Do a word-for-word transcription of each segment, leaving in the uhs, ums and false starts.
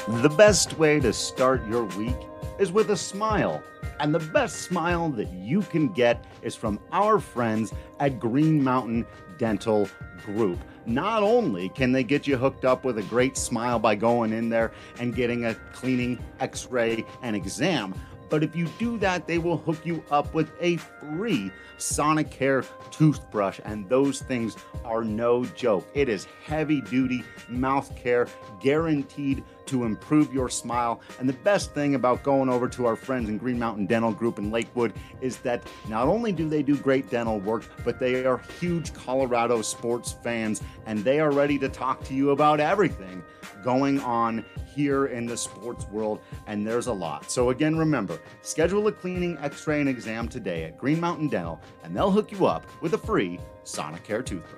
The best way to start your week is with a smile. And the best smile that you can get is from our friends at Green Mountain Dental Group. Not only can they get you hooked up with a great smile by going in there and getting a cleaning, x-ray, and exam, but if you do that, they will hook you up with a free Sonicare toothbrush, and those things are no joke. It is heavy-duty mouth care, guaranteed to improve your smile. And the best thing about going over to our friends in Green Mountain Dental Group in Lakewood is that not only do they do great dental work, but they are huge Colorado sports fans, and they are ready to talk to you about everything going on here in the sports world, and there's a lot. So again, remember, schedule a cleaning, x-ray, and exam today at Green Mountain Dental, and they'll hook you up with a free Sonicare toothbrush.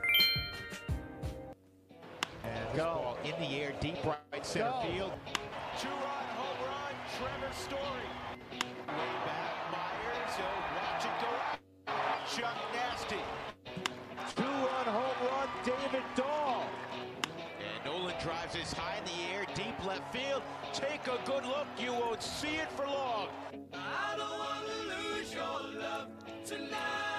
And go in the air, deep right center go. Field. Two-run home run, Trevor Story. Way back, Myers, so watch it go. Chuck Nasty. Two-run home run, David Dahl. And Nolan drives this high in the air, deep left field. Take a good look, you won't see it for long. I don't want to lose your love tonight.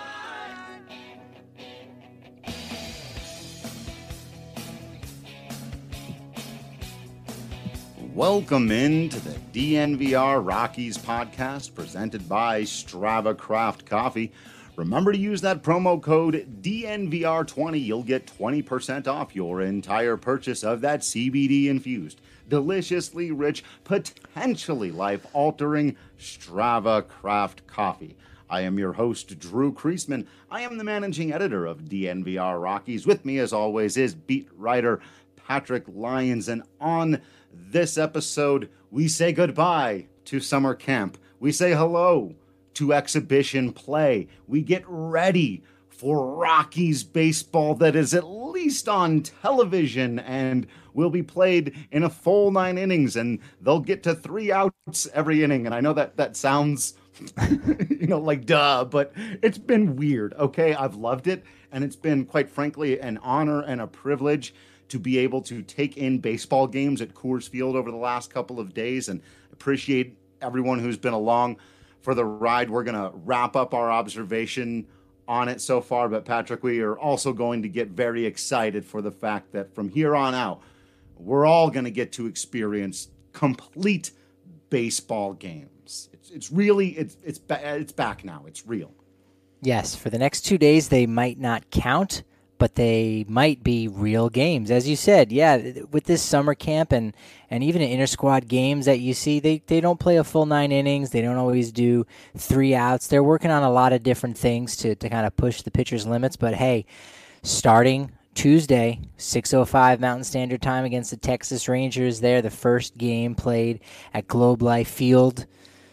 Welcome into the D N V R Rockies podcast presented by Strava Craft Coffee. Remember to use that promo code D N V R twenty. You'll get twenty percent off your entire purchase of that C B D-infused, deliciously rich, potentially life-altering Strava Craft Coffee. I am your host, Drew Kreisman. I am the managing editor of D N V R Rockies. With me, as always, is beat writer Patrick Lyons. And on this episode, we say goodbye to summer camp. We say hello to exhibition play. We get ready for Rockies baseball that is at least on television and will be played in a full nine innings, and they'll get to three outs every inning. And I know that that sounds, you know, like duh, but it's been weird, okay? I've loved it, and it's been, quite frankly, an honor and a privilege to be able to take in baseball games at Coors Field over the last couple of days, and appreciate everyone who's been along for the ride. We're going to wrap up our observation on it so far, but Patrick, we are also going to get very excited for the fact that from here on out, we're all going to get to experience complete baseball games. It's, it's really, it's, it's, it's back now. It's real. Yes, for the next two days, they might not count, but they might be real games. As you said, yeah, with this summer camp and, and even in inter-squad games that you see, they, they don't play a full nine innings. They don't always do three outs. They're working on a lot of different things to, to kind of push the pitcher's limits. But, hey, starting Tuesday, six oh five Mountain Standard Time against the Texas Rangers there, the first game played at Globe Life Field.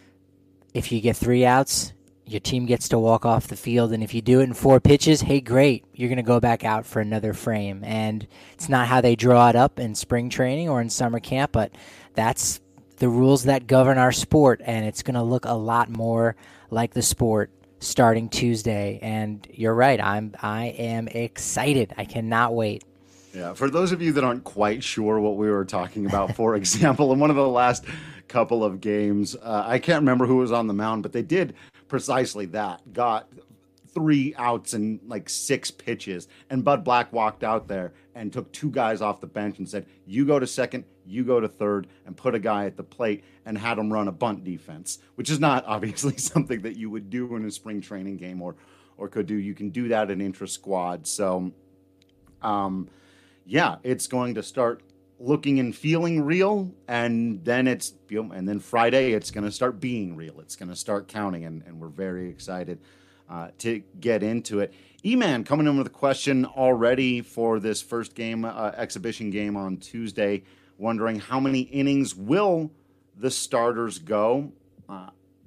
If you get three outs, your team gets to walk off the field, and if you do it in four pitches, hey, great. You're going to go back out for another frame. And it's not how they draw it up in spring training or in summer camp, but that's the rules that govern our sport, and it's going to look a lot more like the sport starting Tuesday. And you're right, I'm I am excited. I cannot wait. Yeah, for those of you that aren't quite sure what we were talking about, for example, in one of the last couple of games, uh, I can't remember who was on the mound, but they did precisely that, got three outs and like six pitches, and Bud Black walked out there and took two guys off the bench and said, you go to second, you go to third, and put a guy at the plate and had him run a bunt defense, which is not obviously something that you would do in a spring training game or or could do. You can do that in intra-squad. So, um, yeah, it's going to start looking and feeling real, and then it's, you know, and then Friday it's going to start being real. It's going to start counting, and, and we're very excited uh, to get into it. E-Man coming in with a question already for this first game, uh, exhibition game on Tuesday, wondering how many innings will the starters go. Uh,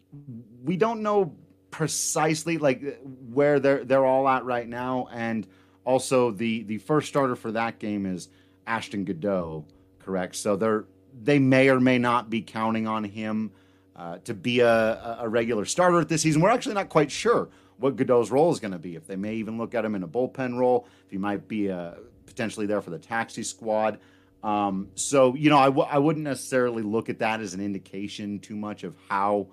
we don't know precisely like where they're they're all at right now, and also the the first starter for that game is Ashton Godot, correct? So they're they may or may not be counting on him uh, to be a, a regular starter at this season. We're actually not quite sure what Godot's role is going to be. If they may even look at him in a bullpen role, if he might be uh, potentially there for the taxi squad. Um, so, you know, I, w- I wouldn't necessarily look at that as an indication too much of how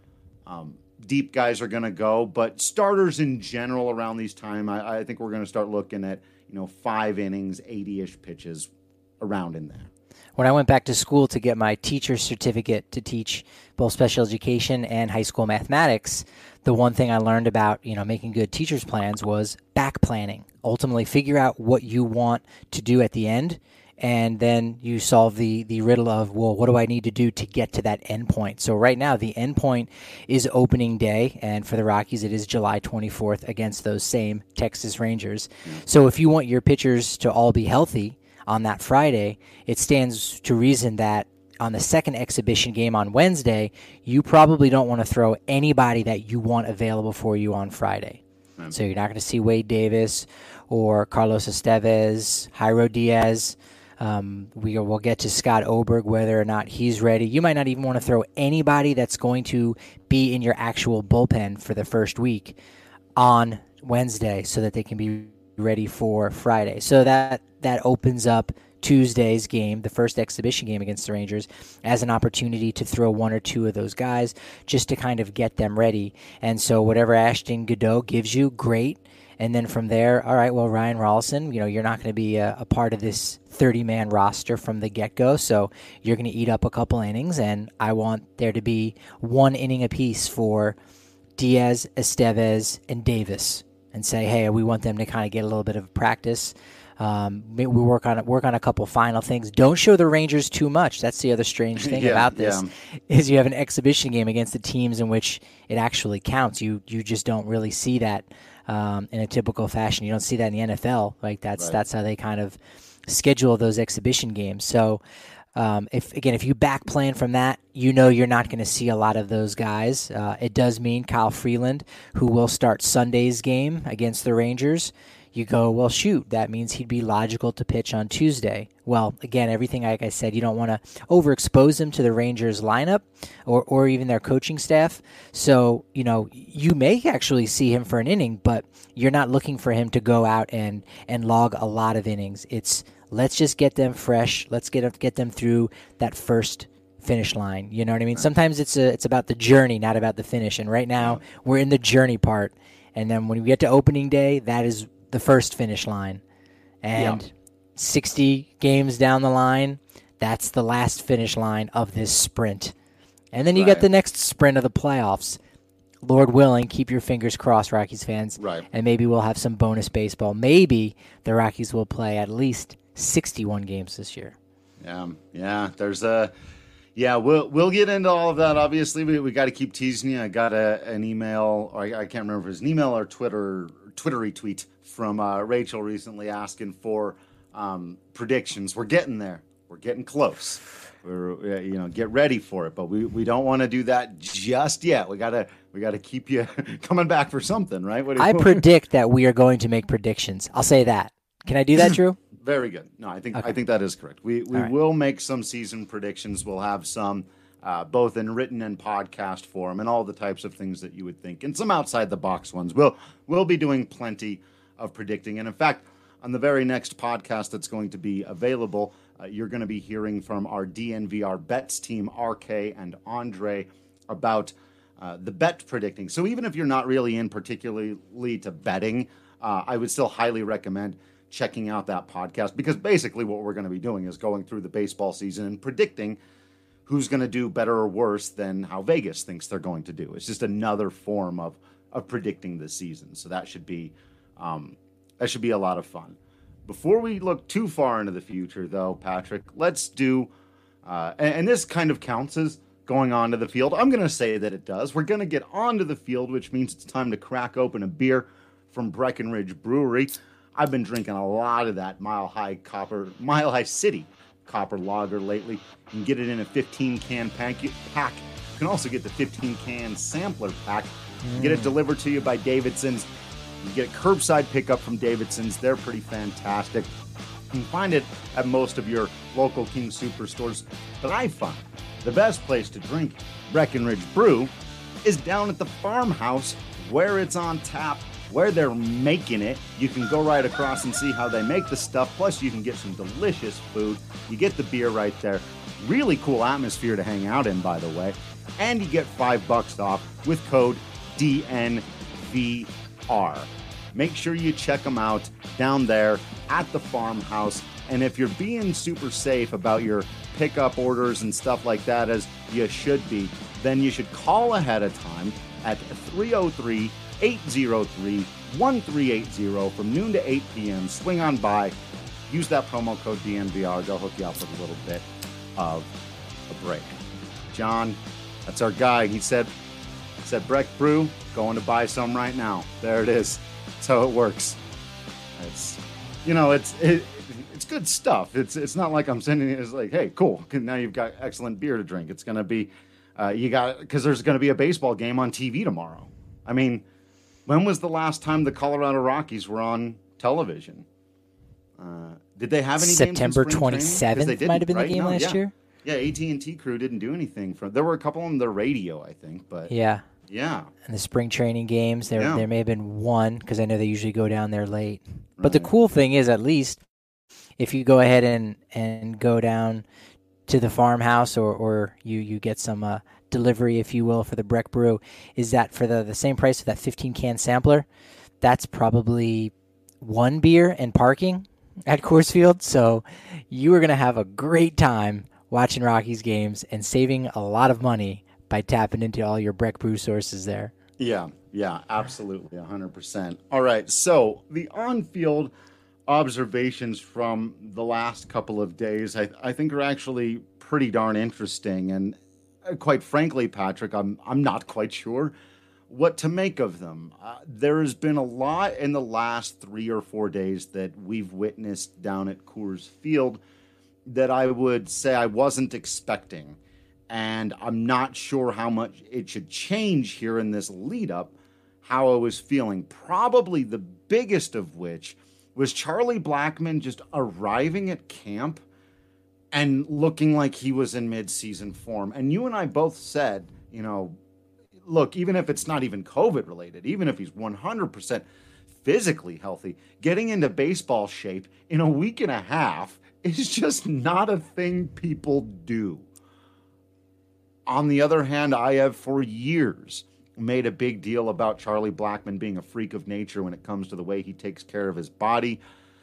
um, deep guys are going to go. But starters in general around these time, I, I think we're going to start looking at, you know, five innings, eighty-ish pitches around in there. When I went back to school to get my teacher's certificate to teach both special education and high school mathematics, the one thing I learned about, you know, making good teacher's plans was back planning. Ultimately, figure out what you want to do at the end, and then you solve the, the riddle of, well, what do I need to do to get to that end point? So right now, the end point is opening day, and for the Rockies, it is July twenty-fourth against those same Texas Rangers. So if you want your pitchers to all be healthy on that Friday, it stands to reason that on the second exhibition game on Wednesday, you probably don't want to throw anybody that you want available for you on Friday. Mm-hmm. So you're not going to see Wade Davis or Carlos Estevez, Jairo Diaz. Um, we will get to Scott Oberg, whether or not he's ready. You might not even want to throw anybody that's going to be in your actual bullpen for the first week on Wednesday so that they can be ready for Friday. So that that opens up Tuesday's game, the first exhibition game against the Rangers, as an opportunity to throw one or two of those guys just to kind of get them ready. And so whatever Ashton Godot gives you, great. And then from there, all right, well, Ryan Rolison, you know, you're not going to be a, a part of this thirty-man roster from the get-go, so you're going to eat up a couple innings, and I want there to be one inning apiece for Diaz, Estevez, and Davis, and say, hey, we want them to kind of get a little bit of practice. Um, we work on work on a couple final things. Don't show the Rangers too much. That's the other strange thing yeah, about this yeah. is you have an exhibition game against the teams in which it actually counts. You you just don't really see that um, in a typical fashion. You don't see that in the N F L. Like that's right. that's how they kind of schedule those exhibition games. So um, if again, if you back plan from that, you know you're not going to see a lot of those guys. Uh, it does mean Kyle Freeland, who will start Sunday's game against the Rangers. You go, well, shoot, that means he'd be logical to pitch on Tuesday. Well, again, everything like I said, you don't want to overexpose him to the Rangers lineup or, or even their coaching staff. So, you know, you may actually see him for an inning, but you're not looking for him to go out and, and log a lot of innings. It's let's just get them fresh. Let's get get them through that first finish line. You know what I mean? Right. Sometimes it's a, it's about the journey, not about the finish. And right now, we're in the journey part. And then when we get to opening day, that is the first finish line, and yeah. sixty games down the line, that's the last finish line of this sprint. And then you right. get the next sprint of the playoffs. Lord willing, keep your fingers crossed, Rockies fans. Right. And maybe we'll have some bonus baseball. Maybe the Rockies will play at least sixty-one games this year. Yeah, yeah. There's a, yeah. We'll we'll get into all of that. Obviously, we we got to keep teasing you. I got a an email, or I, I can't remember if it was an email or Twitter Twittery tweet from uh, Rachel recently asking for um, predictions. We're getting there. We're getting close. We're you know get ready for it, but we, we don't want to do that just yet. We gotta we gotta keep you coming back for something, right? What do you I predict that we are going to make predictions. I'll say that. Can I do that, Drew? Very good. No, I think okay. I think that is correct. We we right. will make some season predictions. We'll have some uh, both in written and podcast form, and all the types of things that you would think, and some outside the box ones. We'll we'll be doing plenty of predicting, and in fact, on the very next podcast that's going to be available, uh, you're going to be hearing from our D N V R bets team, R K and Andre, about uh, the bet predicting. So even if you're not really in particularly to betting, uh, I would still highly recommend checking out that podcast, because basically what we're going to be doing is going through the baseball season and predicting who's going to do better or worse than how Vegas thinks they're going to do. It's just another form of of predicting the season. So that should be um, that should be a lot of fun. Before we look too far into the future, though, Patrick, let's do, uh, and, and this kind of counts as going onto the field. I'm going to say that it does. We're going to get onto the field, which means it's time to crack open a beer from Breckenridge Brewery. I've been drinking a lot of that Mile High Copper, Mile High City Copper Lager lately. You can get it in a fifteen can pack. You can also get the fifteen can sampler pack. You can get it delivered to you by Davidson's. You get a curbside pickup from Davidson's. They're pretty fantastic. You can find it at most of your local King Superstores. But I find the best place to drink Breckenridge Brew is down at the farmhouse, where it's on tap where they're making it. You can go right across and see how they make the stuff. Plus, you can get some delicious food. You get the beer right there. Really cool atmosphere to hang out in, by the way. And you get five bucks off with code D N V R. Make sure you check them out down there at the farmhouse. And if you're being super safe about your pickup orders and stuff like that, as you should be, then you should call ahead of time at three oh three, eight oh three, one three eight oh from noon to eight p.m. Swing on by. Use that promo code D N V R. They'll hook you up with a little bit of a break. John, that's our guy. He said, said Breck Brew, going to buy some right now. There it is. That's how it works. It's, you know, it's it, it's good stuff. It's it's not like I'm sending it as like, hey, cool. Now you've got excellent beer to drink. It's gonna be, uh, you got because there's gonna be a baseball game on T V tomorrow. I mean, when was the last time the Colorado Rockies were on television? Uh, did they have any September games in spring twenty-seventh training? might have been right? the game no, last yeah. year. Yeah, A T and T crew didn't do anything. From there were a couple on the radio, I think, but Yeah. yeah. And the spring training games, there Yeah. there may have been one because I know they usually go down there late. But the Right. cool thing is, at least, if you go ahead and, and go down to the farmhouse or, or you, you get some uh, delivery, if you will, for the Breck Brew, is that for the, the same price of that fifteen-can sampler, that's probably one beer and parking at Coors Field. So you are going to have a great time watching Rockies games and saving a lot of money by tapping into all your Breck Brew sources there. Yeah, yeah, absolutely, one hundred percent. All right, so the on-field observations from the last couple of days, I, I think are actually pretty darn interesting. And uh, quite frankly, Patrick, I'm I'm not quite sure what to make of them. Uh, there has been a lot in the last three or four days that we've witnessed down at Coors Field that I would say I wasn't expecting. And I'm not sure how much it should change here in this lead up, how I was feeling. Probably the biggest of which was Charlie Blackmon just arriving at camp and looking like he was in mid-season form. And you and I both said, you know, look, even if it's not even COVID related, even if he's one hundred percent physically healthy, getting into baseball shape in a week and a half is just not a thing people do. On the other hand, I have for years made a big deal about Charlie Blackmon being a freak of nature when it comes to the way he takes care of his body.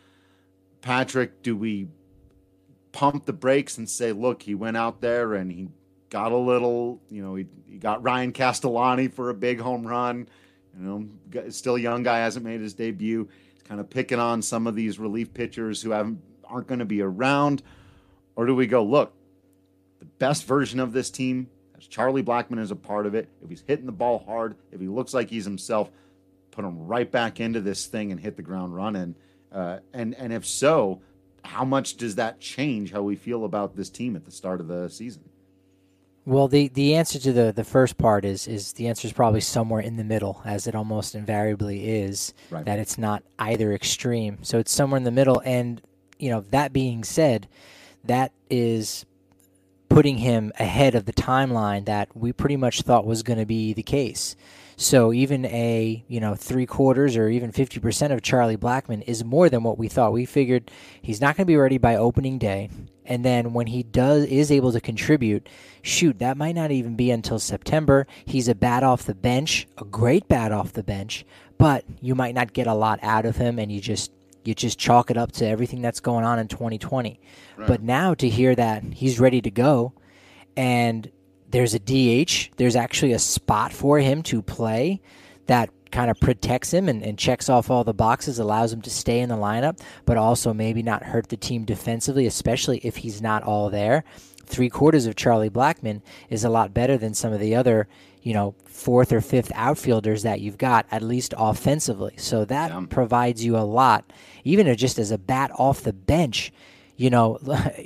Patrick, do we pump the brakes and say, look, he went out there and he got a little, you know, he, he got Ryan Castellani for a big home run. You know, still a young guy, hasn't made his debut. He's kind of picking on some of these relief pitchers who haven't aren't going to be around. Or do we go, look, the best version of this team has Charlie Blackmon as a part of it. If he's hitting the ball hard, if he looks like he's himself, put him right back into this thing and hit the ground running. Uh, and and if so, how much does that change how we feel about this team at the start of the season? Well, the, the answer to the, the first part is is the answer is probably somewhere in the middle, as it almost invariably is, Right. that it's not either extreme. So it's somewhere in the middle. And, you know, that being said, that is putting him ahead of the timeline that we pretty much thought was going to be the case. So even a, you know, three quarters or even fifty percent of Charlie Blackmon is more than what we thought. We figured he's not going to be ready by opening day. And then when he does is able to contribute, shoot, that might not even be until September. He's a bat off the bench, a great bat off the bench, but you might not get a lot out of him, and you just you just chalk it up to everything that's going on in twenty twenty. Right. But now to hear that he's ready to go, and there's a D H, there's actually a spot for him to play that kind of protects him and, and checks off all the boxes, allows him to stay in the lineup, but also maybe not hurt the team defensively, especially if he's not all there. Three quarters of Charlie Blackmon is a lot better than some of the other, you know, fourth or fifth outfielders that you've got, at least offensively. So that yeah. provides you a lot, even just as a bat off the bench. You know,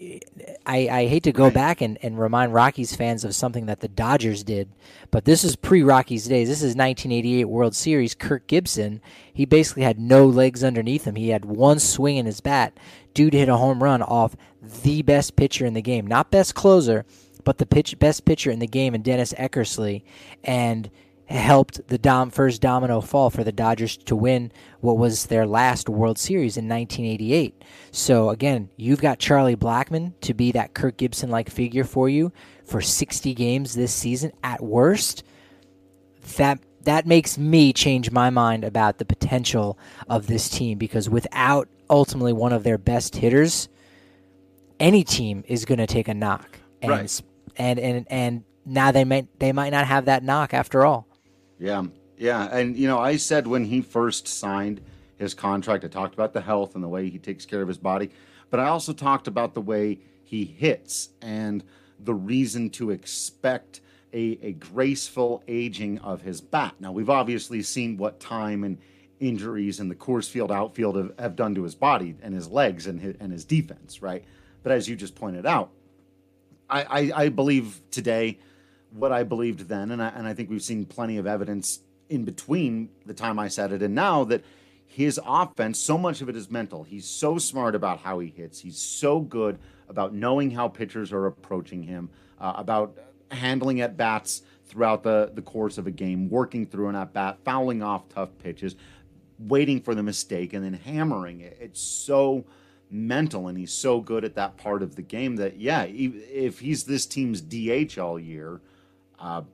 I, I hate to go right. back and, and remind Rockies fans of something that the Dodgers did, but this is pre-Rockies days. This is nineteen eighty-eight World Series. Kirk Gibson, he basically had no legs underneath him. He had one swing in his bat. Dude hit a home run off the best pitcher in the game. Not best closer, but the pitch, best pitcher in the game, and Dennis Eckersley. And helped the dom- first domino fall for the Dodgers to win what was their last World Series in nineteen eighty-eight. So again, you've got Charlie Blackmon to be that Kirk Gibson-like figure for you for sixty games this season at worst. That that makes me change my mind about the potential of this team, because without ultimately one of their best hitters, any team is going to take a knock. And, right. and and and now they might they might not have that knock after all. Yeah, yeah. And, you know, I said when he first signed his contract, I talked about the health and the way he takes care of his body, but I also talked about the way he hits and the reason to expect a, a graceful aging of his bat. Now, we've obviously seen what time and injuries in the Coors Field outfield have, have done to his body and his legs and his, and his defense, right? But as you just pointed out, I, I, I believe today what I believed then, and I, and I think we've seen plenty of evidence in between the time I said it and now, that his offense, so much of it is mental. He's so smart about how he hits. He's so good about knowing how pitchers are approaching him, uh, about handling at-bats throughout the, the course of a game, working through an at-bat, fouling off tough pitches, waiting for the mistake, and then hammering it. It's so mental, and he's so good at that part of the game that, yeah, if he's this team's D H all year, uh,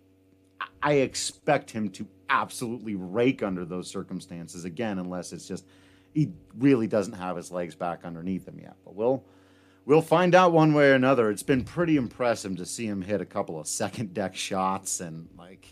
I expect him to absolutely rake under those circumstances again, unless it's just he really doesn't have his legs back underneath him yet. But we'll we'll find out one way or another. It's been pretty impressive to see him hit a couple of second deck shots, and like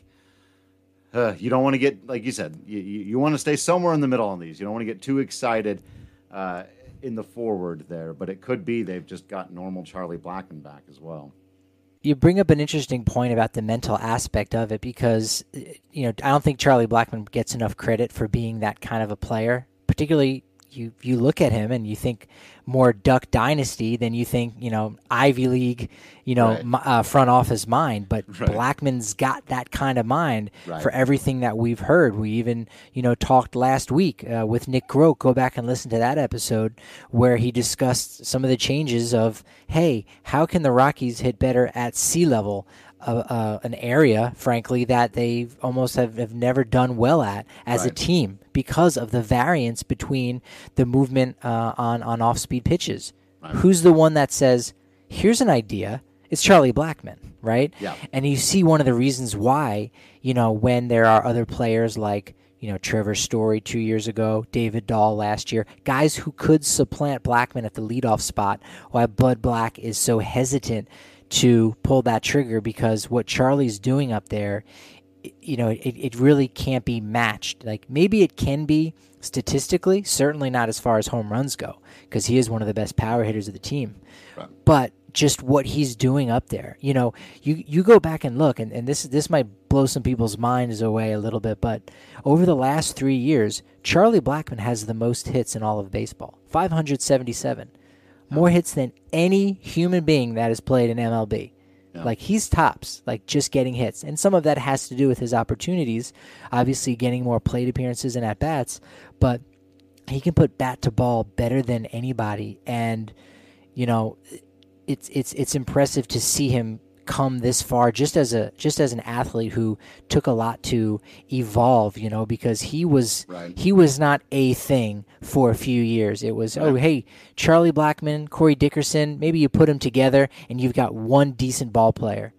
uh, you don't want to get, like you said, you, you, you want to stay somewhere in the middle on these. You don't want to get too excited uh, in the forward there, but it could be they've just got normal Charlie Blackmon back as well. You bring up an interesting point about the mental aspect of it, because, you know, I don't think Charlie Blackmon gets enough credit for being that kind of a player. Particularly, you you look at him and you think more Duck Dynasty than you think, you know, Ivy League, you know, right. uh, front office mind. But right. Blackmon's got that kind of mind right. for everything that we've heard. We even, you know, talked last week uh, with Nick Groke. Go back and listen to that episode where he discussed some of the changes of, hey, how can the Rockies hit better at sea level? Uh, uh, an area, frankly, that they almost have, have never done well at as right. a team because of the variance between the movement uh, on, on off-speed pitches. Right. Who's the one that says, here's an idea? It's Charlie Blackmon, right? Yeah. And you see one of the reasons why, you know, when there are other players like, you know, Trevor Story two years ago, David Dahl last year, guys who could supplant Blackmon at the leadoff spot, why Bud Black is so hesitant to pull that trigger, because what Charlie's doing up there, you know, it, it really can't be matched. Like, maybe it can be statistically, certainly not as far as home runs go, because he is one of the best power hitters of the team. Right. But just what he's doing up there, you know, you, you go back and look, and, and this this might blow some people's minds away a little bit, but over the last three years, Charlie Blackmon has the most hits in all of baseball, five hundred seventy-seven. More hits than any human being that has played in M L B. Yeah. Like, he's tops, like, just getting hits. And some of that has to do with his opportunities, obviously getting more plate appearances and at-bats, but he can put bat to ball better than anybody. And, you know, it's it's it's impressive to see him come this far just as a just as an athlete who took a lot to evolve, you know, because he was right. he was not a thing for a few years. It was, right. oh, hey, Charlie Blackmon, Corey Dickerson, maybe you put them together and you've got one decent ball player.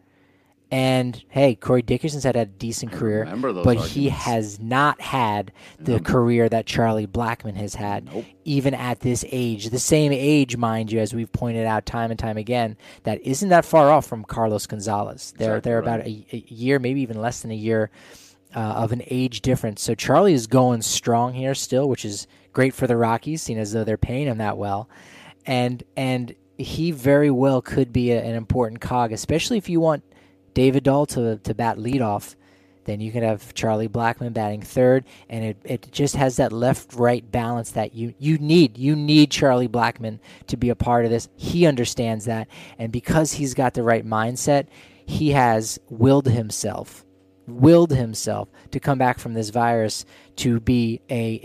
And, hey, Corey Dickerson's had a decent career, but arguments. He has not had the nope. career that Charlie Blackmon has had, nope. even at this age. The same age, mind you, as we've pointed out time and time again, that isn't that far off from Carlos Gonzalez. They're, exactly they're right. about a, a year, maybe even less than a year uh, of an age difference. So Charlie is going strong here still, which is great for the Rockies, seeing as though they're paying him that well. And, and he very well could be a, an important cog, especially if you want David Dahl to to bat leadoff, then you can have Charlie Blackmon batting third, and it, it just has that left-right balance that you, you need. You need Charlie Blackmon to be a part of this. He understands that, and because he's got the right mindset, he has willed himself, willed himself to come back from this virus to be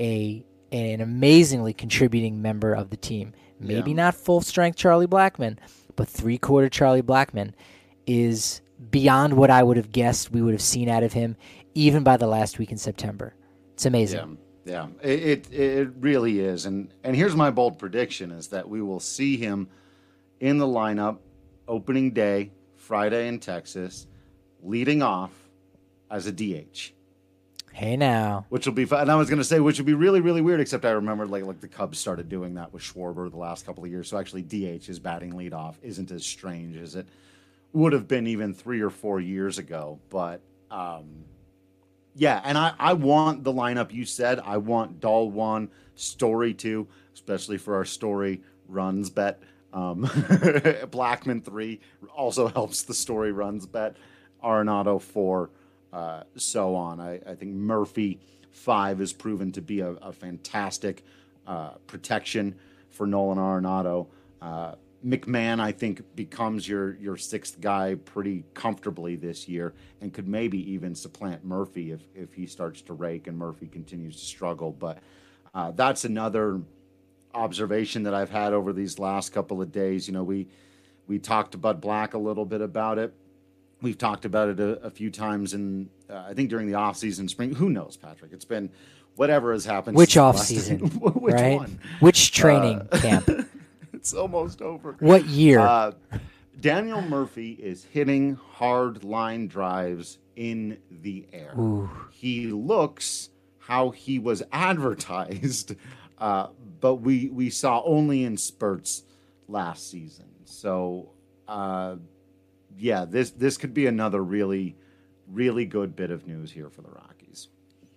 a a an amazingly contributing member of the team. Maybe yeah. not full-strength Charlie Blackmon, but three-quarter Charlie Blackmon is beyond what I would have guessed we would have seen out of him even by the last week in September. It's amazing. Yeah, yeah, it, it it really is. And and here's my bold prediction is that we will see him in the lineup opening day, Friday in Texas, leading off as a D H. Hey now. Which will be fun. And I was going to say, which would be really, really weird, except I remembered like like the Cubs started doing that with Schwarber the last couple of years. So actually D H is batting leadoff isn't as strange as it would have been even three or four years ago. But um, yeah, and I, I want the lineup you said. I want Dahl one, Story two, especially for our Story runs bet. Um, Blackman three also helps the Story runs bet. Arenado four. Uh, so on. I, I think Murphy five has proven to be a, a fantastic uh, protection for Nolan Arenado. Uh, McMahon, I think, becomes your your sixth guy pretty comfortably this year and could maybe even supplant Murphy if, if he starts to rake and Murphy continues to struggle. But uh, that's another observation that I've had over these last couple of days. You know, we, we talked to Bud Black a little bit about it. We've talked about it a, a few times, in uh, I think during the off season, spring. Who knows, Patrick? It's been whatever has happened. Which off season? Which right? one? Which training uh, camp? It's almost over. What year? Uh, Daniel Murphy is hitting hard line drives in the air. Ooh. He looks how he was advertised, uh, but we we saw only in spurts last season. So. Uh, Yeah, this this could be another really, really good bit of news here for the Rockies.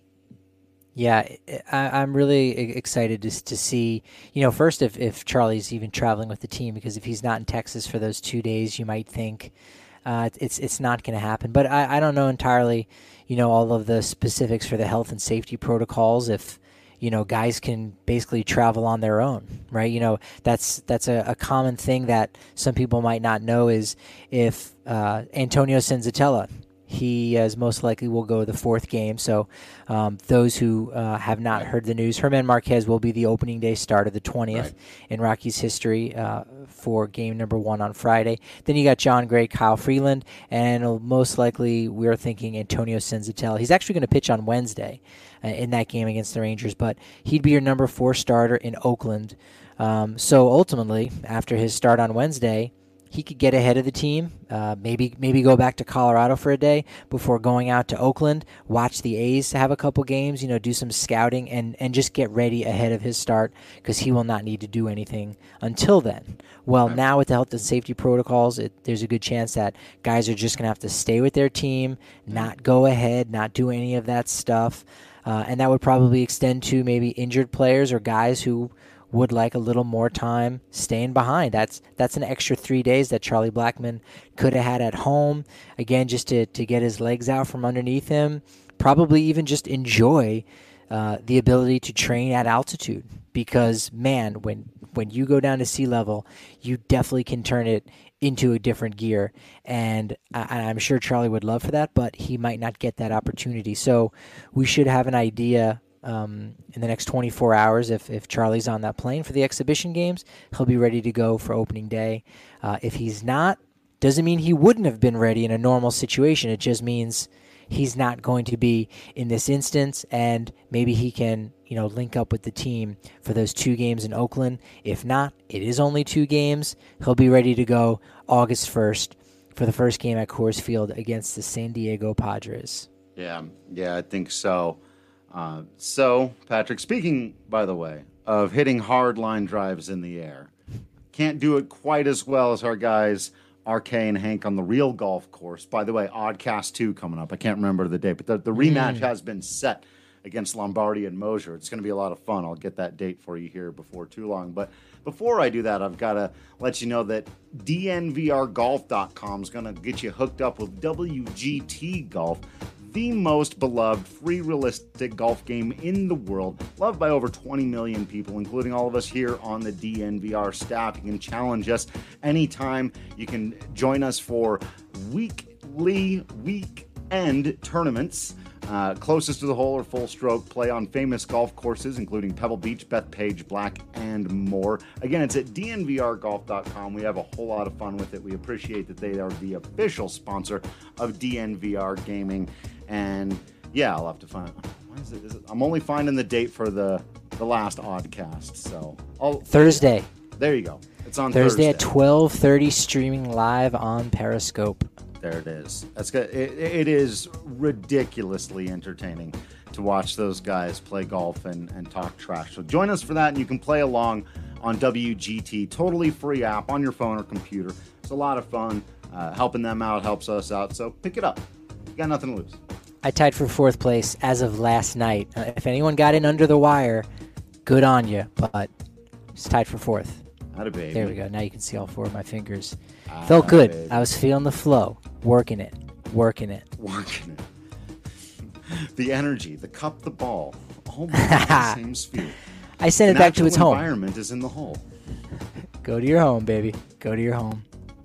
Yeah, I, I'm really excited to to see. You know, first if if Charlie's even traveling with the team, because if he's not in Texas for those two days, you might think uh, it's it's not going to happen. But I, I don't know entirely. You know, all of the specifics for the health and safety protocols. If you know, guys can basically travel on their own, right? You know, that's that's a, a common thing that some people might not know is if uh, Antonio Senzatella, he is most likely will go the fourth game. So um, those who uh, have not heard the news, Herman Marquez will be the opening day start of the twentieth right. in Rockies history uh, for game number one on Friday. Then you got John Gray, Kyle Freeland, and most likely we're thinking Antonio Senzatella. He's actually going to pitch on Wednesday uh, in that game against the Rangers, but he'd be your number four starter in Oakland. Um, so ultimately, after his start on Wednesday, he could get ahead of the team, uh, maybe maybe go back to Colorado for a day before going out to Oakland, watch the A's have a couple games, you know, do some scouting, and, and just get ready ahead of his start because he will not need to do anything until then. Well, now with the health and safety protocols, it, there's a good chance that guys are just going to have to stay with their team, not go ahead, not do any of that stuff, uh, and that would probably extend to maybe injured players or guys who would like a little more time staying behind. That's that's an extra three days that Charlie Blackman could have had at home. Again, just to, to get his legs out from underneath him. Probably even just enjoy uh, the ability to train at altitude. Because, man, when, when you go down to sea level, you definitely can turn it into a different gear. And I, I'm sure Charlie would love for that, but he might not get that opportunity. So we should have an idea Um, in the next twenty-four hours, if, if Charlie's on that plane for the exhibition games, he'll be ready to go for opening day. Uh, if he's not, doesn't mean he wouldn't have been ready in a normal situation. It just means he's not going to be in this instance, and maybe he can, you know, link up with the team for those two games in Oakland. If not, it is only two games. He'll be ready to go August first for the first game at Coors Field against the San Diego Padres. Yeah, yeah, I think so. Uh, so, Patrick, speaking, by the way, of hitting hard line drives in the air, can't do it quite as well as our guys R K and Hank on the real golf course. By the way, Oddcast two coming up. I can't remember the date, but the, the rematch mm. has been set against Lombardi and Mosier. It's going to be a lot of fun. I'll get that date for you here before too long. But before I do that, I've got to let you know that D N V R golf dot com is going to get you hooked up with W G T Golf, the most beloved free realistic golf game in the world, loved by over twenty million people, including all of us here on the D N V R staff. You can challenge us anytime. You can join us for weekly weekend tournaments. Uh, closest to the hole or full stroke play on famous golf courses, including Pebble Beach, Bethpage, Black, and more. Again, it's at D N V R golf dot com. We have a whole lot of fun with it. We appreciate that they are the official sponsor of D N V R Gaming. And Yeah, I'll have to find. What is it? Is it? I'm only finding the date for the the last Oddcast, so I'll, Thursday. There you go. It's on Thursday, Thursday at twelve thirty, streaming live on Periscope. There it is. That's good. It, it is ridiculously entertaining to watch those guys play golf and, and talk trash. So join us for that, and you can play along on W G T. Totally free app on your phone or computer. It's a lot of fun. Uh, helping them out helps us out, so pick it up. You got nothing to lose. I tied for fourth place as of last night. Uh, if anyone got in under the wire, good on you, but it's tied for fourth. Atta baby. There we go. Now you can see all four of my fingers. Atta Felt good. baby. I was feeling the flow, working it, working it. Working it. The energy, the cup, the ball, all in the same sphere. I sent it The back to natural its home. environment is in the hole. Go to your home, baby. Go to your home.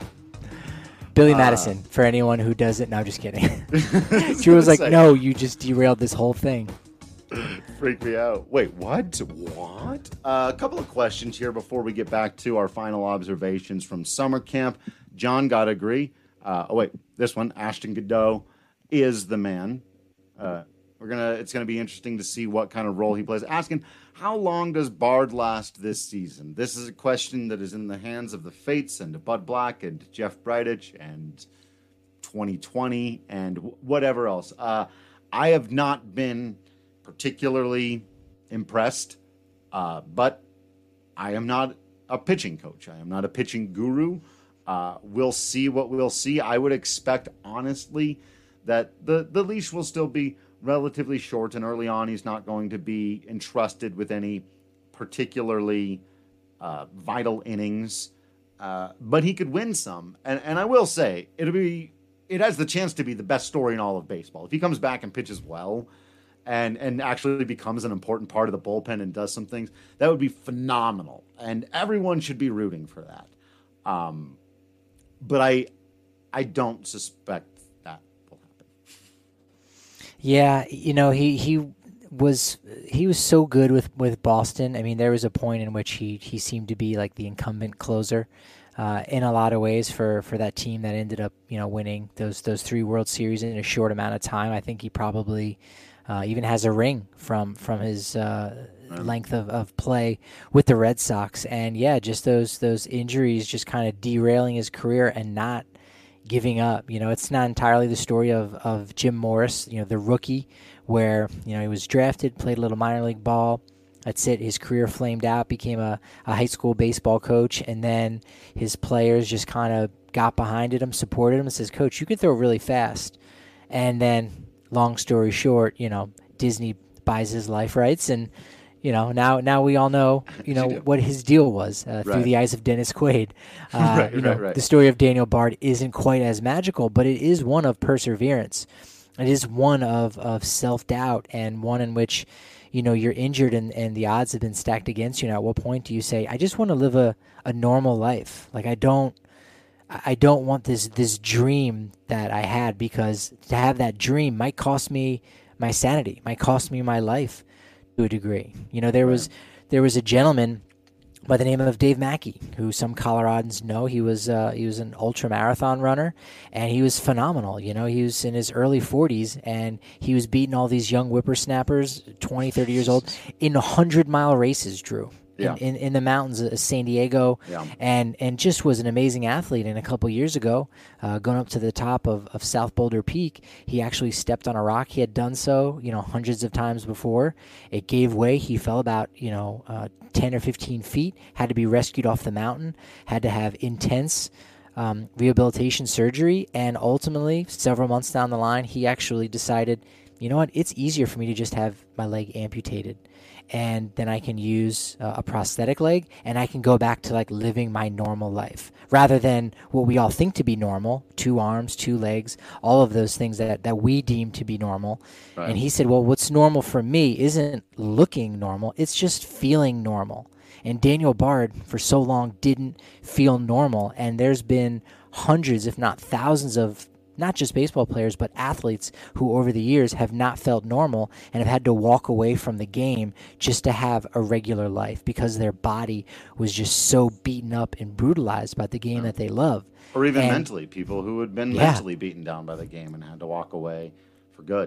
Billy Uh, Madison, for anyone who doesn't. No, I'm just kidding. Drew was like, say. no, you just derailed this whole thing. Freak me out. Wait, what? What? Uh, a couple of questions here before we get back to our final observations from summer camp. John got to agree. Uh, oh, wait, this one, Ashton Godot is the man. Uh, we're gonna. It's gonna be interesting to see what kind of role he plays. Asking, how long does Bard last this season? This is a question that is in the hands of the Fates and Bud Black and Jeff Bridich and twenty twenty and w- whatever else. Uh, I have not been particularly impressed, uh, but I am not a pitching coach. I am not a pitching guru. Uh, we'll see what we'll see. I would expect, honestly, that the, the leash will still be relatively short, and early on he's not going to be entrusted with any particularly uh, vital innings, uh, but he could win some. And, and I will say, it'll be it has the chance to be the best story in all of baseball. If he comes back and pitches well and, and actually becomes an important part of the bullpen and does some things, that would be phenomenal. And everyone should be rooting for that. Um, but I I don't suspect that will happen. Yeah, you know, he, he was he was so good with, with Boston. I mean, there was a point in which he, he seemed to be like the incumbent closer uh, in a lot of ways for, for that team that ended up, you know, winning those those three World Series in a short amount of time. I think he probably uh, even has a ring from from his uh, length of, of play with the Red Sox. And yeah, just those those injuries just kind of derailing his career and not giving up. You know, it's not entirely the story of, of Jim Morris, you know, the rookie, where, you know, he was drafted, played a little minor league ball. That's it. His career flamed out, became a, a high school baseball coach, and then his players just kind of got behind him, supported him, and says, Coach, you can throw really fast. And then, long story short, you know, Disney buys his life rights, and You know, now now we all know, you know, what his deal was uh, through Right. the eyes of Dennis Quaid. Uh, Right, you know, right, right. the story of Daniel Bard isn't quite as magical, but it is one of perseverance. It is one of, of self-doubt, and one in which, you know, you're injured and, and the odds have been stacked against you. Now, at what point do you say, I just want to live a, a normal life? Like, I don't I don't want this this dream that I had, because to have that dream might cost me my sanity, might cost me my life to a degree. You know, there was there was a gentleman by the name of Dave Mackey, who some Coloradans know. He was uh, he was an ultra marathon runner, and he was phenomenal. You know, he was in his early forties, and he was beating all these young whippersnappers, twenty, thirty years old, in one hundred mile races, Drew. Yeah. In, in, in the mountains of San Diego, Yeah. and and just was an amazing athlete. And a couple years ago, uh, going up to the top of, of South Boulder Peak, he actually stepped on a rock. He had done so, you know, hundreds of times before. It gave way. He fell about, you know, uh, ten or fifteen feet, had to be rescued off the mountain, had to have intense um, rehabilitation surgery, and ultimately, several months down the line, he actually decided, you know what, it's easier for me to just have my leg amputated. And then I can use uh, a prosthetic leg, and I can go back to like living my normal life, rather than what we all think to be normal: two arms, two legs, all of those things that, that we deem to be normal. Right. And he said, well, what's normal for me isn't looking normal, it's just feeling normal. And Daniel Bard, for so long, didn't feel normal. And there's been hundreds, if not thousands, of not just baseball players, but athletes who over the years have not felt normal and have had to walk away from the game just to have a regular life, because their body was just so beaten up and brutalized by the game that they love. Or even And- mentally, people who had been Yeah. mentally beaten down by the game and had to walk away for good.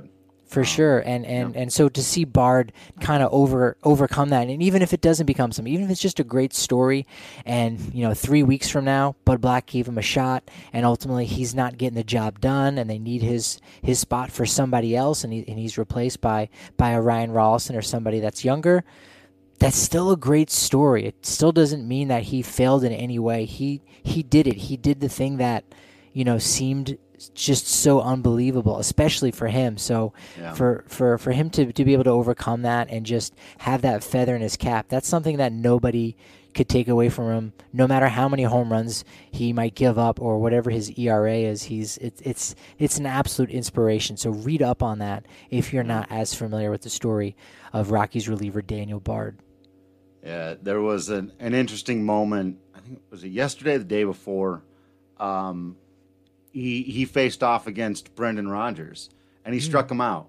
For um, sure, and and, yeah. and so to see Bard kind of over overcome that, and even if it doesn't become something, even if it's just a great story, and you know three weeks from now, Bud Black gave him a shot, and ultimately he's not getting the job done, and they need his his spot for somebody else, and he and he's replaced by by a Ryan Rollison or somebody that's younger. That's still a great story. It still doesn't mean that he failed in any way. He he did it. He did the thing that you know seemed just so unbelievable, especially for him. So yeah. for, for, for him to, to be able to overcome that and just have that feather in his cap, that's something that nobody could take away from him, no matter how many home runs he might give up or whatever his E R A is. He's it, it's it's an absolute inspiration. So read up on that if you're not as familiar with the story of Rockies reliever Daniel Bard. Yeah, there was an, an interesting moment. I think was it yesterday, or the day before. Um, He he faced off against Brendan Rodgers, and he mm. struck him out.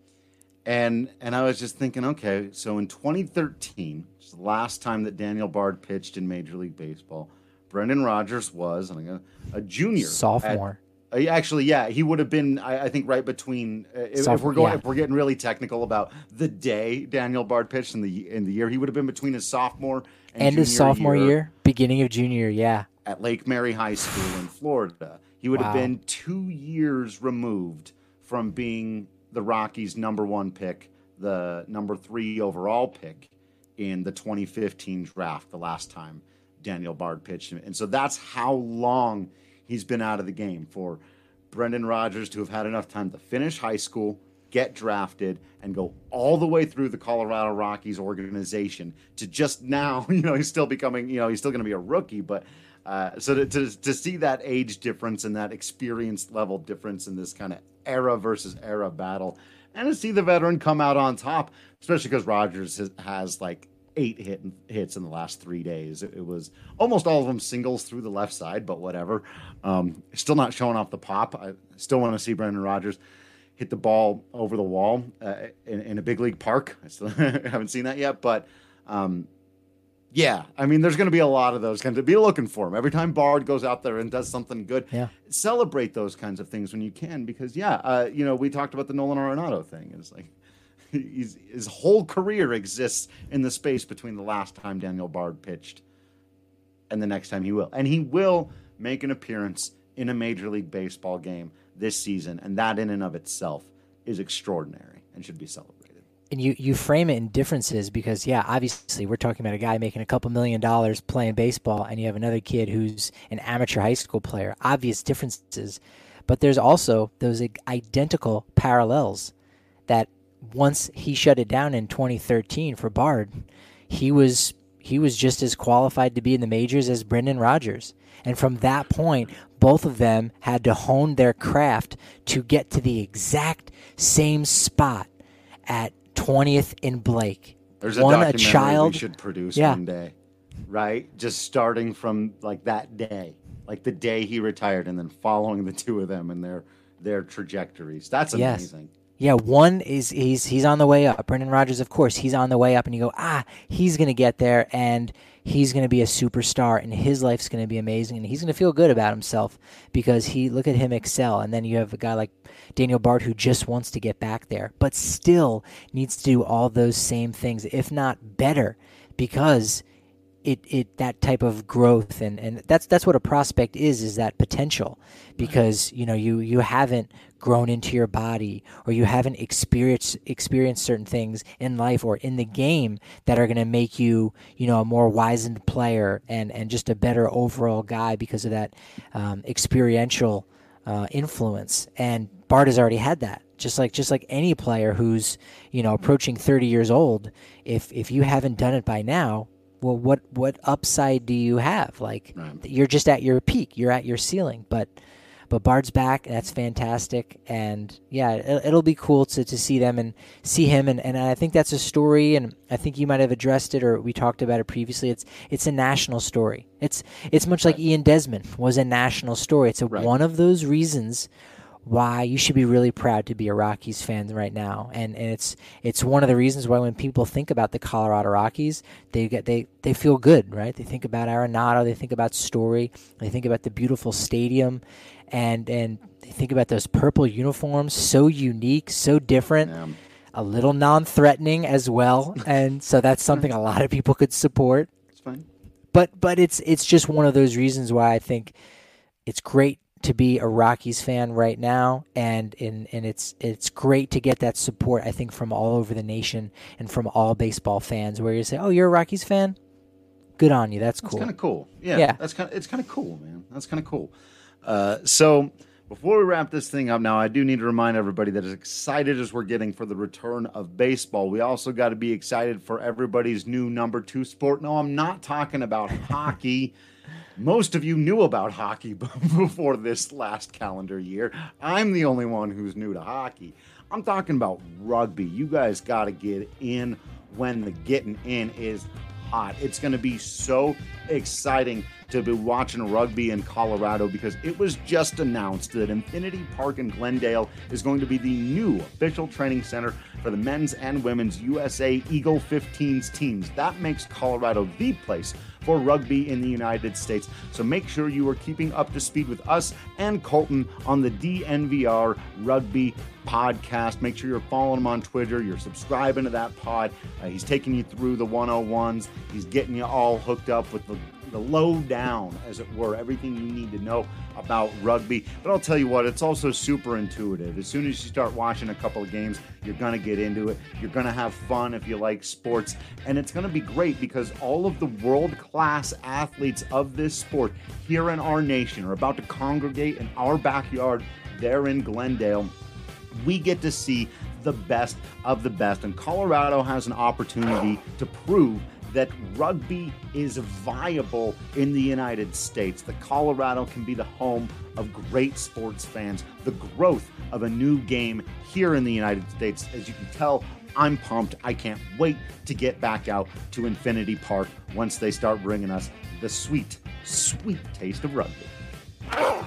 And and I was just thinking, okay, so in twenty thirteen, which is the last time that Daniel Bard pitched in Major League Baseball, Brendan Rodgers was a, a junior. Sophomore. At, uh, actually, yeah, he would have been, I, I think, right between, uh, if, if we're going, yeah. if we're getting really technical about the day Daniel Bard pitched in the in the year, he would have been between his sophomore and End junior of sophomore year, year, beginning of junior, yeah. At Lake Mary High School in Florida. He would wow. have been two years removed from being the Rockies' number one pick, the number three overall pick in the twenty fifteen draft, the last time Daniel Bard pitched. And so that's how long he's been out of the game, for Brendan Rodgers to have had enough time to finish high school, get drafted, and go all the way through the Colorado Rockies organization to just now, you know, he's still becoming, you know, he's still going to be a rookie, but Uh, so to, to to see that age difference and that experience level difference in this kind of era versus era battle, and to see the veteran come out on top, especially because Rodgers has, has like eight hit, hits in the last three days. It, it was almost all of them singles through the left side, but whatever. Um, still not showing off the pop. I still want to see Brendan Rodgers hit the ball over the wall uh, in, in a big league park. I still haven't seen that yet, but um, yeah, I mean, there's going to be a lot of those kinds of, be looking for them. Every time Bard goes out there and does something good, yeah. celebrate those kinds of things when you can, because yeah, uh, you know, we talked about the Nolan Arenado thing. It's like he's, his whole career exists in the space between the last time Daniel Bard pitched and the next time he will. And he will make an appearance in a Major League Baseball game this season, and that in and of itself is extraordinary and should be celebrated. And you, you frame it in differences because, yeah, obviously we're talking about a guy making a couple million dollars playing baseball, and you have another kid who's an amateur high school player. Obvious differences. But there's also those identical parallels that once he shut it down in twenty thirteen for Bard, he was he was just as qualified to be in the majors as Brendan Rodgers. And from that point, both of them had to hone their craft to get to the exact same spot at twentieth in Blake. There's a one, documentary a child, we should produce yeah. one day, right? Just starting from like that day, like the day he retired, and then following the two of them and their their trajectories. That's amazing. Yes. Yeah, one is he's he's on the way up. Brendan Rodgers, of course, he's on the way up, and you go, ah, he's going to get there, and he's going to be a superstar, and his life's going to be amazing, and he's going to feel good about himself because he look at him excel. And then you have a guy like Daniel Bard who just wants to get back there, but still needs to do all those same things, if not better, because it it that type of growth and, and that's that's what a prospect is is that potential, because you know you you haven't grown into your body, or you haven't experienced experienced certain things in life or in the game that are going to make you you know a more wizened player and and just a better overall guy because of that um, experiential uh, influence. And Bard has already had that. Just like just like any player who's you know approaching thirty years old, if if you haven't done it by now, well, what what upside do you have? Like right. You're just at your peak, you're at your ceiling. But but Bard's back, and that's fantastic. And yeah, it, it'll be cool to, to see them and see him. And, and I think that's a story, and I think you might have addressed it, or we talked about it previously. It's it's a national story. It's it's much like right. Ian Desmond was a national story. It's a, right. one of those reasons why you should be really proud to be a Rockies fan right now. And and it's it's one of the reasons why when people think about the Colorado Rockies, they get they, they feel good, right? They think about Arenado, they think about Story, they think about the beautiful stadium, and and they think about those purple uniforms, so unique, so different. Yeah. A little non-threatening as well, and so that's something a lot of people could support. It's fine. But but it's it's just one of those reasons why I think it's great to be a Rockies fan right now, and and, and it's it's great to get that support, I think, from all over the nation and from all baseball fans, where you say, oh, you're a Rockies fan? Good on you. That's cool. That's kind of cool. Yeah, Yeah. That's kind of it's kind of cool, man. That's kind of cool. Uh, so before we wrap this thing up now, I do need to remind everybody that as excited as we're getting for the return of baseball, we also got to be excited for everybody's new number two sport. No, I'm not talking about hockey. Most of you knew about hockey before this last calendar year. I'm the only one who's new to hockey. I'm talking about rugby. You guys got to get in when the getting in is hot. It's going to be so exciting to be watching rugby in Colorado because it was just announced that Infinity Park in Glendale is going to be the new official training center for the men's and women's U S A Eagle fifteens teams. That makes Colorado the place for rugby in the United States. So make sure you are keeping up to speed with us and Colton on the D N V R Rugby podcast. Make sure you're following him on Twitter. You're subscribing to that pod. Uh, he's taking you through the one oh ones. He's getting you all hooked up with the the lowdown, as it were, everything you need to know about rugby. But I'll tell you what, it's also super intuitive. As soon as you start watching a couple of games, you're going to get into it. You're going to have fun if you like sports. And it's going to be great because all of the world-class athletes of this sport here in our nation are about to congregate in our backyard there in Glendale. We get to see the best of the best. And Colorado has an opportunity to prove that rugby is viable in the United States. The Colorado can be the home of great sports fans, the growth of a new game here in the United States. As you can tell, I'm pumped. I can't wait to get back out to Infinity Park once they start bringing us the sweet, sweet taste of rugby. Oh,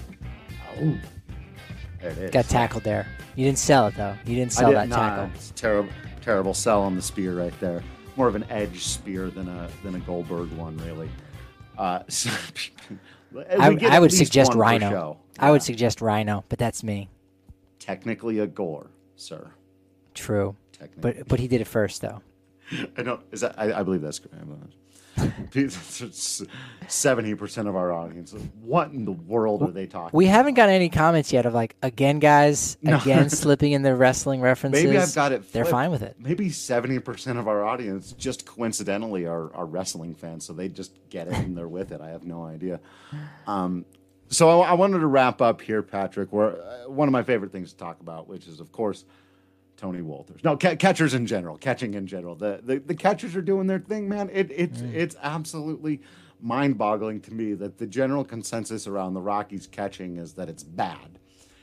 there it is. Got tackled there. You didn't sell it, though. You didn't sell I that didn't, nah, tackle. It's a terrible, terrible sell on the spear right there. More of an edge spear than a than a Goldberg one, really. Uh, so, I, I would suggest one Rhino. Yeah. I would suggest Rhino, but that's me. Technically a gore, sir. True, but but he did it first, though. I don't. Is that? I, I believe that's correct. Seventy percent of our audience. What in the world are they talking? We haven't got any comments yet of like, again, guys, again, no. slipping in the wrestling references. Maybe I've got it flipped. They're fine with it. Maybe seventy percent of our audience just coincidentally are, are wrestling fans, so they just get it and they're with it. I have no idea. Um, so I, I wanted to wrap up here, Patrick, where uh, one of my favorite things to talk about, which is, of course, Tony Wolters. No, ca- catchers in general, catching in general. The, the the catchers are doing their thing, man. It it's mm. it's absolutely mind-boggling to me that the general consensus around the Rockies catching is that it's bad.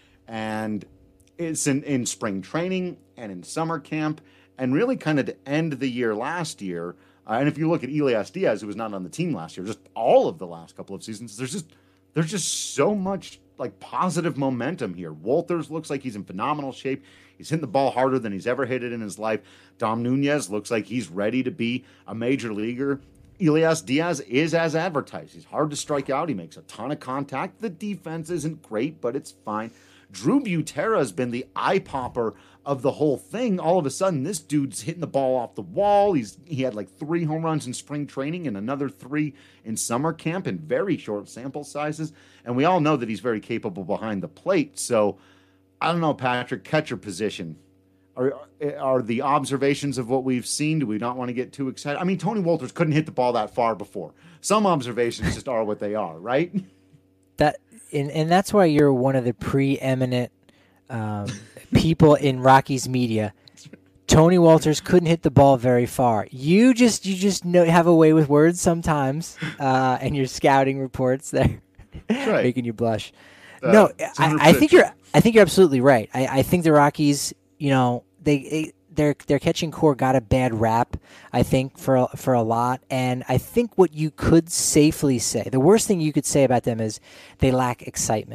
And it's in, in spring training and in summer camp and really kind of to end the year last year. Uh, and if you look at Elias Diaz, who was not on the team last year, just all of the last couple of seasons, there's just there's just so much like positive momentum here. Wolters looks like he's in phenomenal shape. He's hitting the ball harder than he's ever hit it in his life. Dom Nunez looks like he's ready to be a major leaguer. Elias Diaz is as advertised. He's hard to strike out. He makes a ton of contact. The defense isn't great, but it's fine. Drew Butera has been the eye popper of the whole thing. All of a sudden, this dude's hitting the ball off the wall. He's He had like three home runs in spring training and another three in summer camp in very short sample sizes. And we all know that he's very capable behind the plate. So, I don't know, Patrick, catcher position. Are, are the observations of what we've seen, do we not want to get too excited? I mean, Tony Wolters couldn't hit the ball that far before. Some observations just are what they are, right? That and, and that's why you're one of the preeminent um, people in Rockies media. Tony Wolters couldn't hit the ball very far. You just you just know, have a way with words sometimes, uh, and your scouting reports there, right. making you blush. Uh, no, I, I think you're I think you're absolutely right. I, I think the Rockies, you know, they their their catching core got a bad rap, I think, for for a lot. And I think what you could safely say, the worst thing you could say about them is they lack excitement.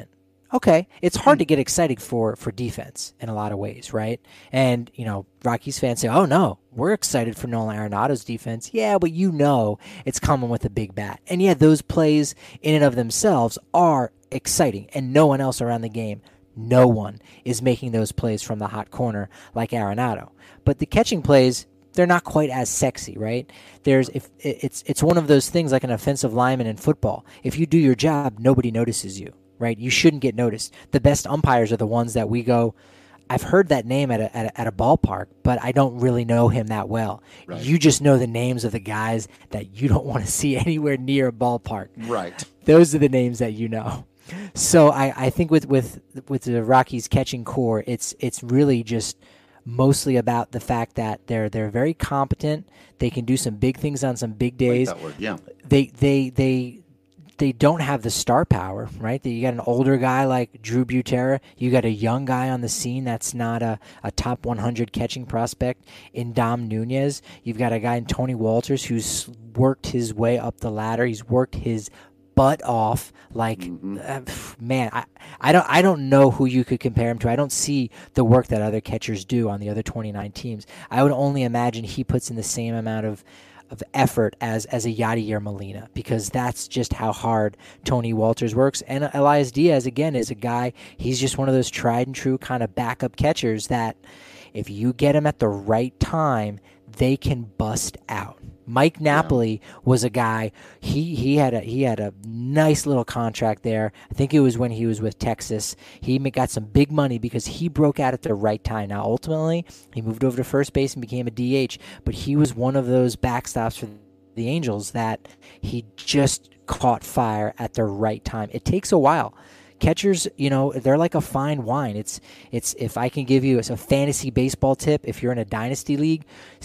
Okay, it's hard to get excited for for defense in a lot of ways, right? And, you know, Rockies fans say, oh, no, we're excited for Nolan Arenado's defense. Yeah, but you know it's coming with a big bat. And, yeah, those plays in and of themselves are exciting, and no one else around the game, no one is making those plays from the hot corner like Arenado. But the catching plays, they're not quite as sexy, right? There's if it's it's one of those things like an offensive lineman in football. If you do your job, nobody notices you. Right, you shouldn't get noticed. The best umpires are the ones that we go, I've heard that name at a, at a, at a ballpark, but I don't really know him that well. Right. You just know the names of the guys that you don't want to see anywhere near a ballpark. Right. Those are the names that you know. So I, I think with, with with the Rockies catching core, it's it's really just mostly about the fact that they're they're very competent. They can do some big things on some big days. Like that word. Yeah. They they they. They don't have the star power, right? You got an older guy like Drew Butera. You got a young guy on the scene that's not a, a top one hundred catching prospect in Dom Nunez. You've got a guy in Tony Walters who's worked his way up the ladder. He's worked his butt off. Like, mm-hmm. uh, man, I, I don't I don't know who you could compare him to. I don't see the work that other catchers do on the other twenty-nine teams. I would only imagine he puts in the same amount of of effort as as a Yadier Molina, because that's just how hard Tony Walters works. And Elias Diaz, again, is a guy, he's just one of those tried and true kind of backup catchers that if you get him at the right time, they can bust out. Mike Napoli yeah. was a guy, he he had a he had a nice little contract there. I think it was when he was with Texas. He got some big money because he broke out at the right time. Now, ultimately, he moved over to first base and became a D H, but he was one of those backstops for the Angels that he just caught fire at the right time. It takes a while. Catchers, you know, they're like a fine wine. It's it's if I can give you a fantasy baseball tip, if you're in a dynasty league,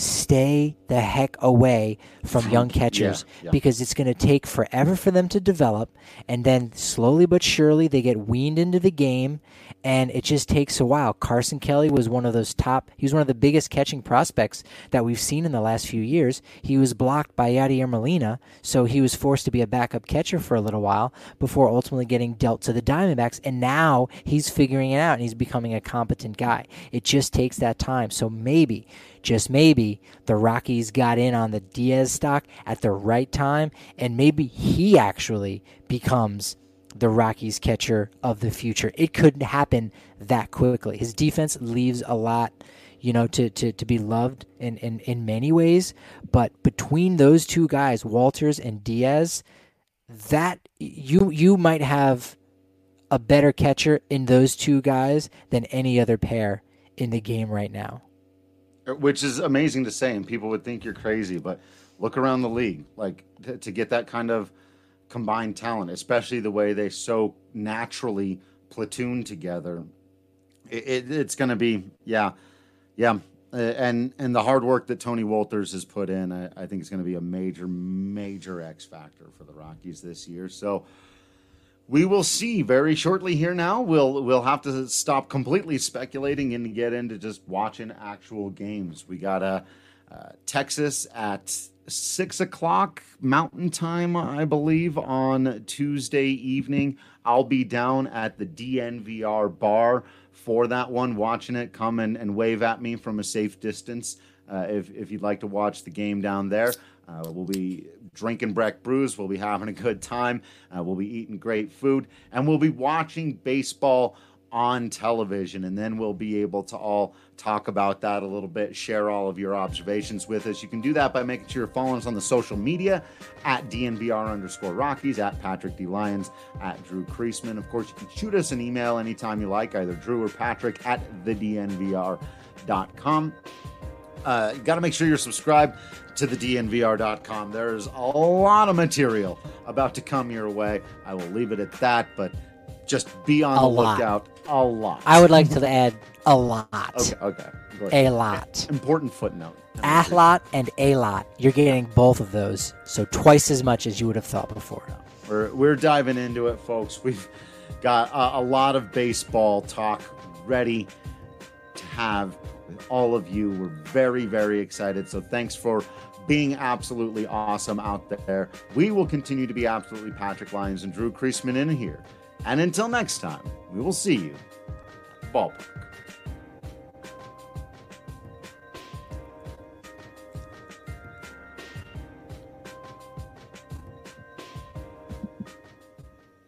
stay the heck away from young catchers yeah, yeah. because it's going to take forever for them to develop, and then slowly but surely they get weaned into the game, and it just takes a while. Carson Kelly was one of those top, he was one of the biggest catching prospects that we've seen in the last few years. He was blocked by Yadier Molina, so he was forced to be a backup catcher for a little while before ultimately getting dealt to the Diamondbacks, and now he's figuring it out and he's becoming a competent guy. It just takes that time. So maybe, just maybe, the Rockies got in on the Diaz stock at the right time, and maybe he actually becomes the Rockies catcher of the future. It could happen that quickly. His defense leaves a lot, you know, to, to, to be loved in, in, in many ways, but between those two guys, Walters and Diaz, that you you might have a better catcher in those two guys than any other pair in the game right now. Which is amazing to say, and people would think you're crazy, but look around the league, like to, to get that kind of combined talent, especially the way they so naturally platoon together. It, it, it's going to be, yeah, yeah. Uh, and and the hard work that Tony Walters has put in, I, I think it's going to be a major, major X factor for the Rockies this year. So we will see very shortly here now. We'll we'll have to stop completely speculating and get into just watching actual games. We got a uh, Texas at six o'clock Mountain Time, I believe, on Tuesday evening. I'll be down at the D N V R bar for that one, watching it. Come and, and wave at me from a safe distance uh, if, if you'd like to watch the game down there. Uh, we'll be drinking Breck brews. We'll be having a good time. Uh, we'll be eating great food. And we'll be watching baseball on television. And then we'll be able to all talk about that a little bit, share all of your observations with us. You can do that by making sure you're following us on the social media at D N V R underscore Rockies, at Patrick D. Lyons, at Drew Creasman. Of course, you can shoot us an email anytime you like, either Drew or Patrick at the D N V R dot com. Uh, you got to make sure you're subscribed to the D N V R dot com. There's a lot of material about to come your way. I will leave it at that, but just be on a the lot. lookout. A lot. I would like to add a lot. Okay, okay. A lot. Important footnote. A lot and a lot. You're getting both of those, so twice as much as you would have thought before. We're, we're diving into it, folks. We've got a, a lot of baseball talk ready to have with all of you. We're very, very excited, so thanks for being absolutely awesome out there. We will continue to be absolutely Patrick Lyons and Drew Creasman in here And until next time, we will see you at the ballpark.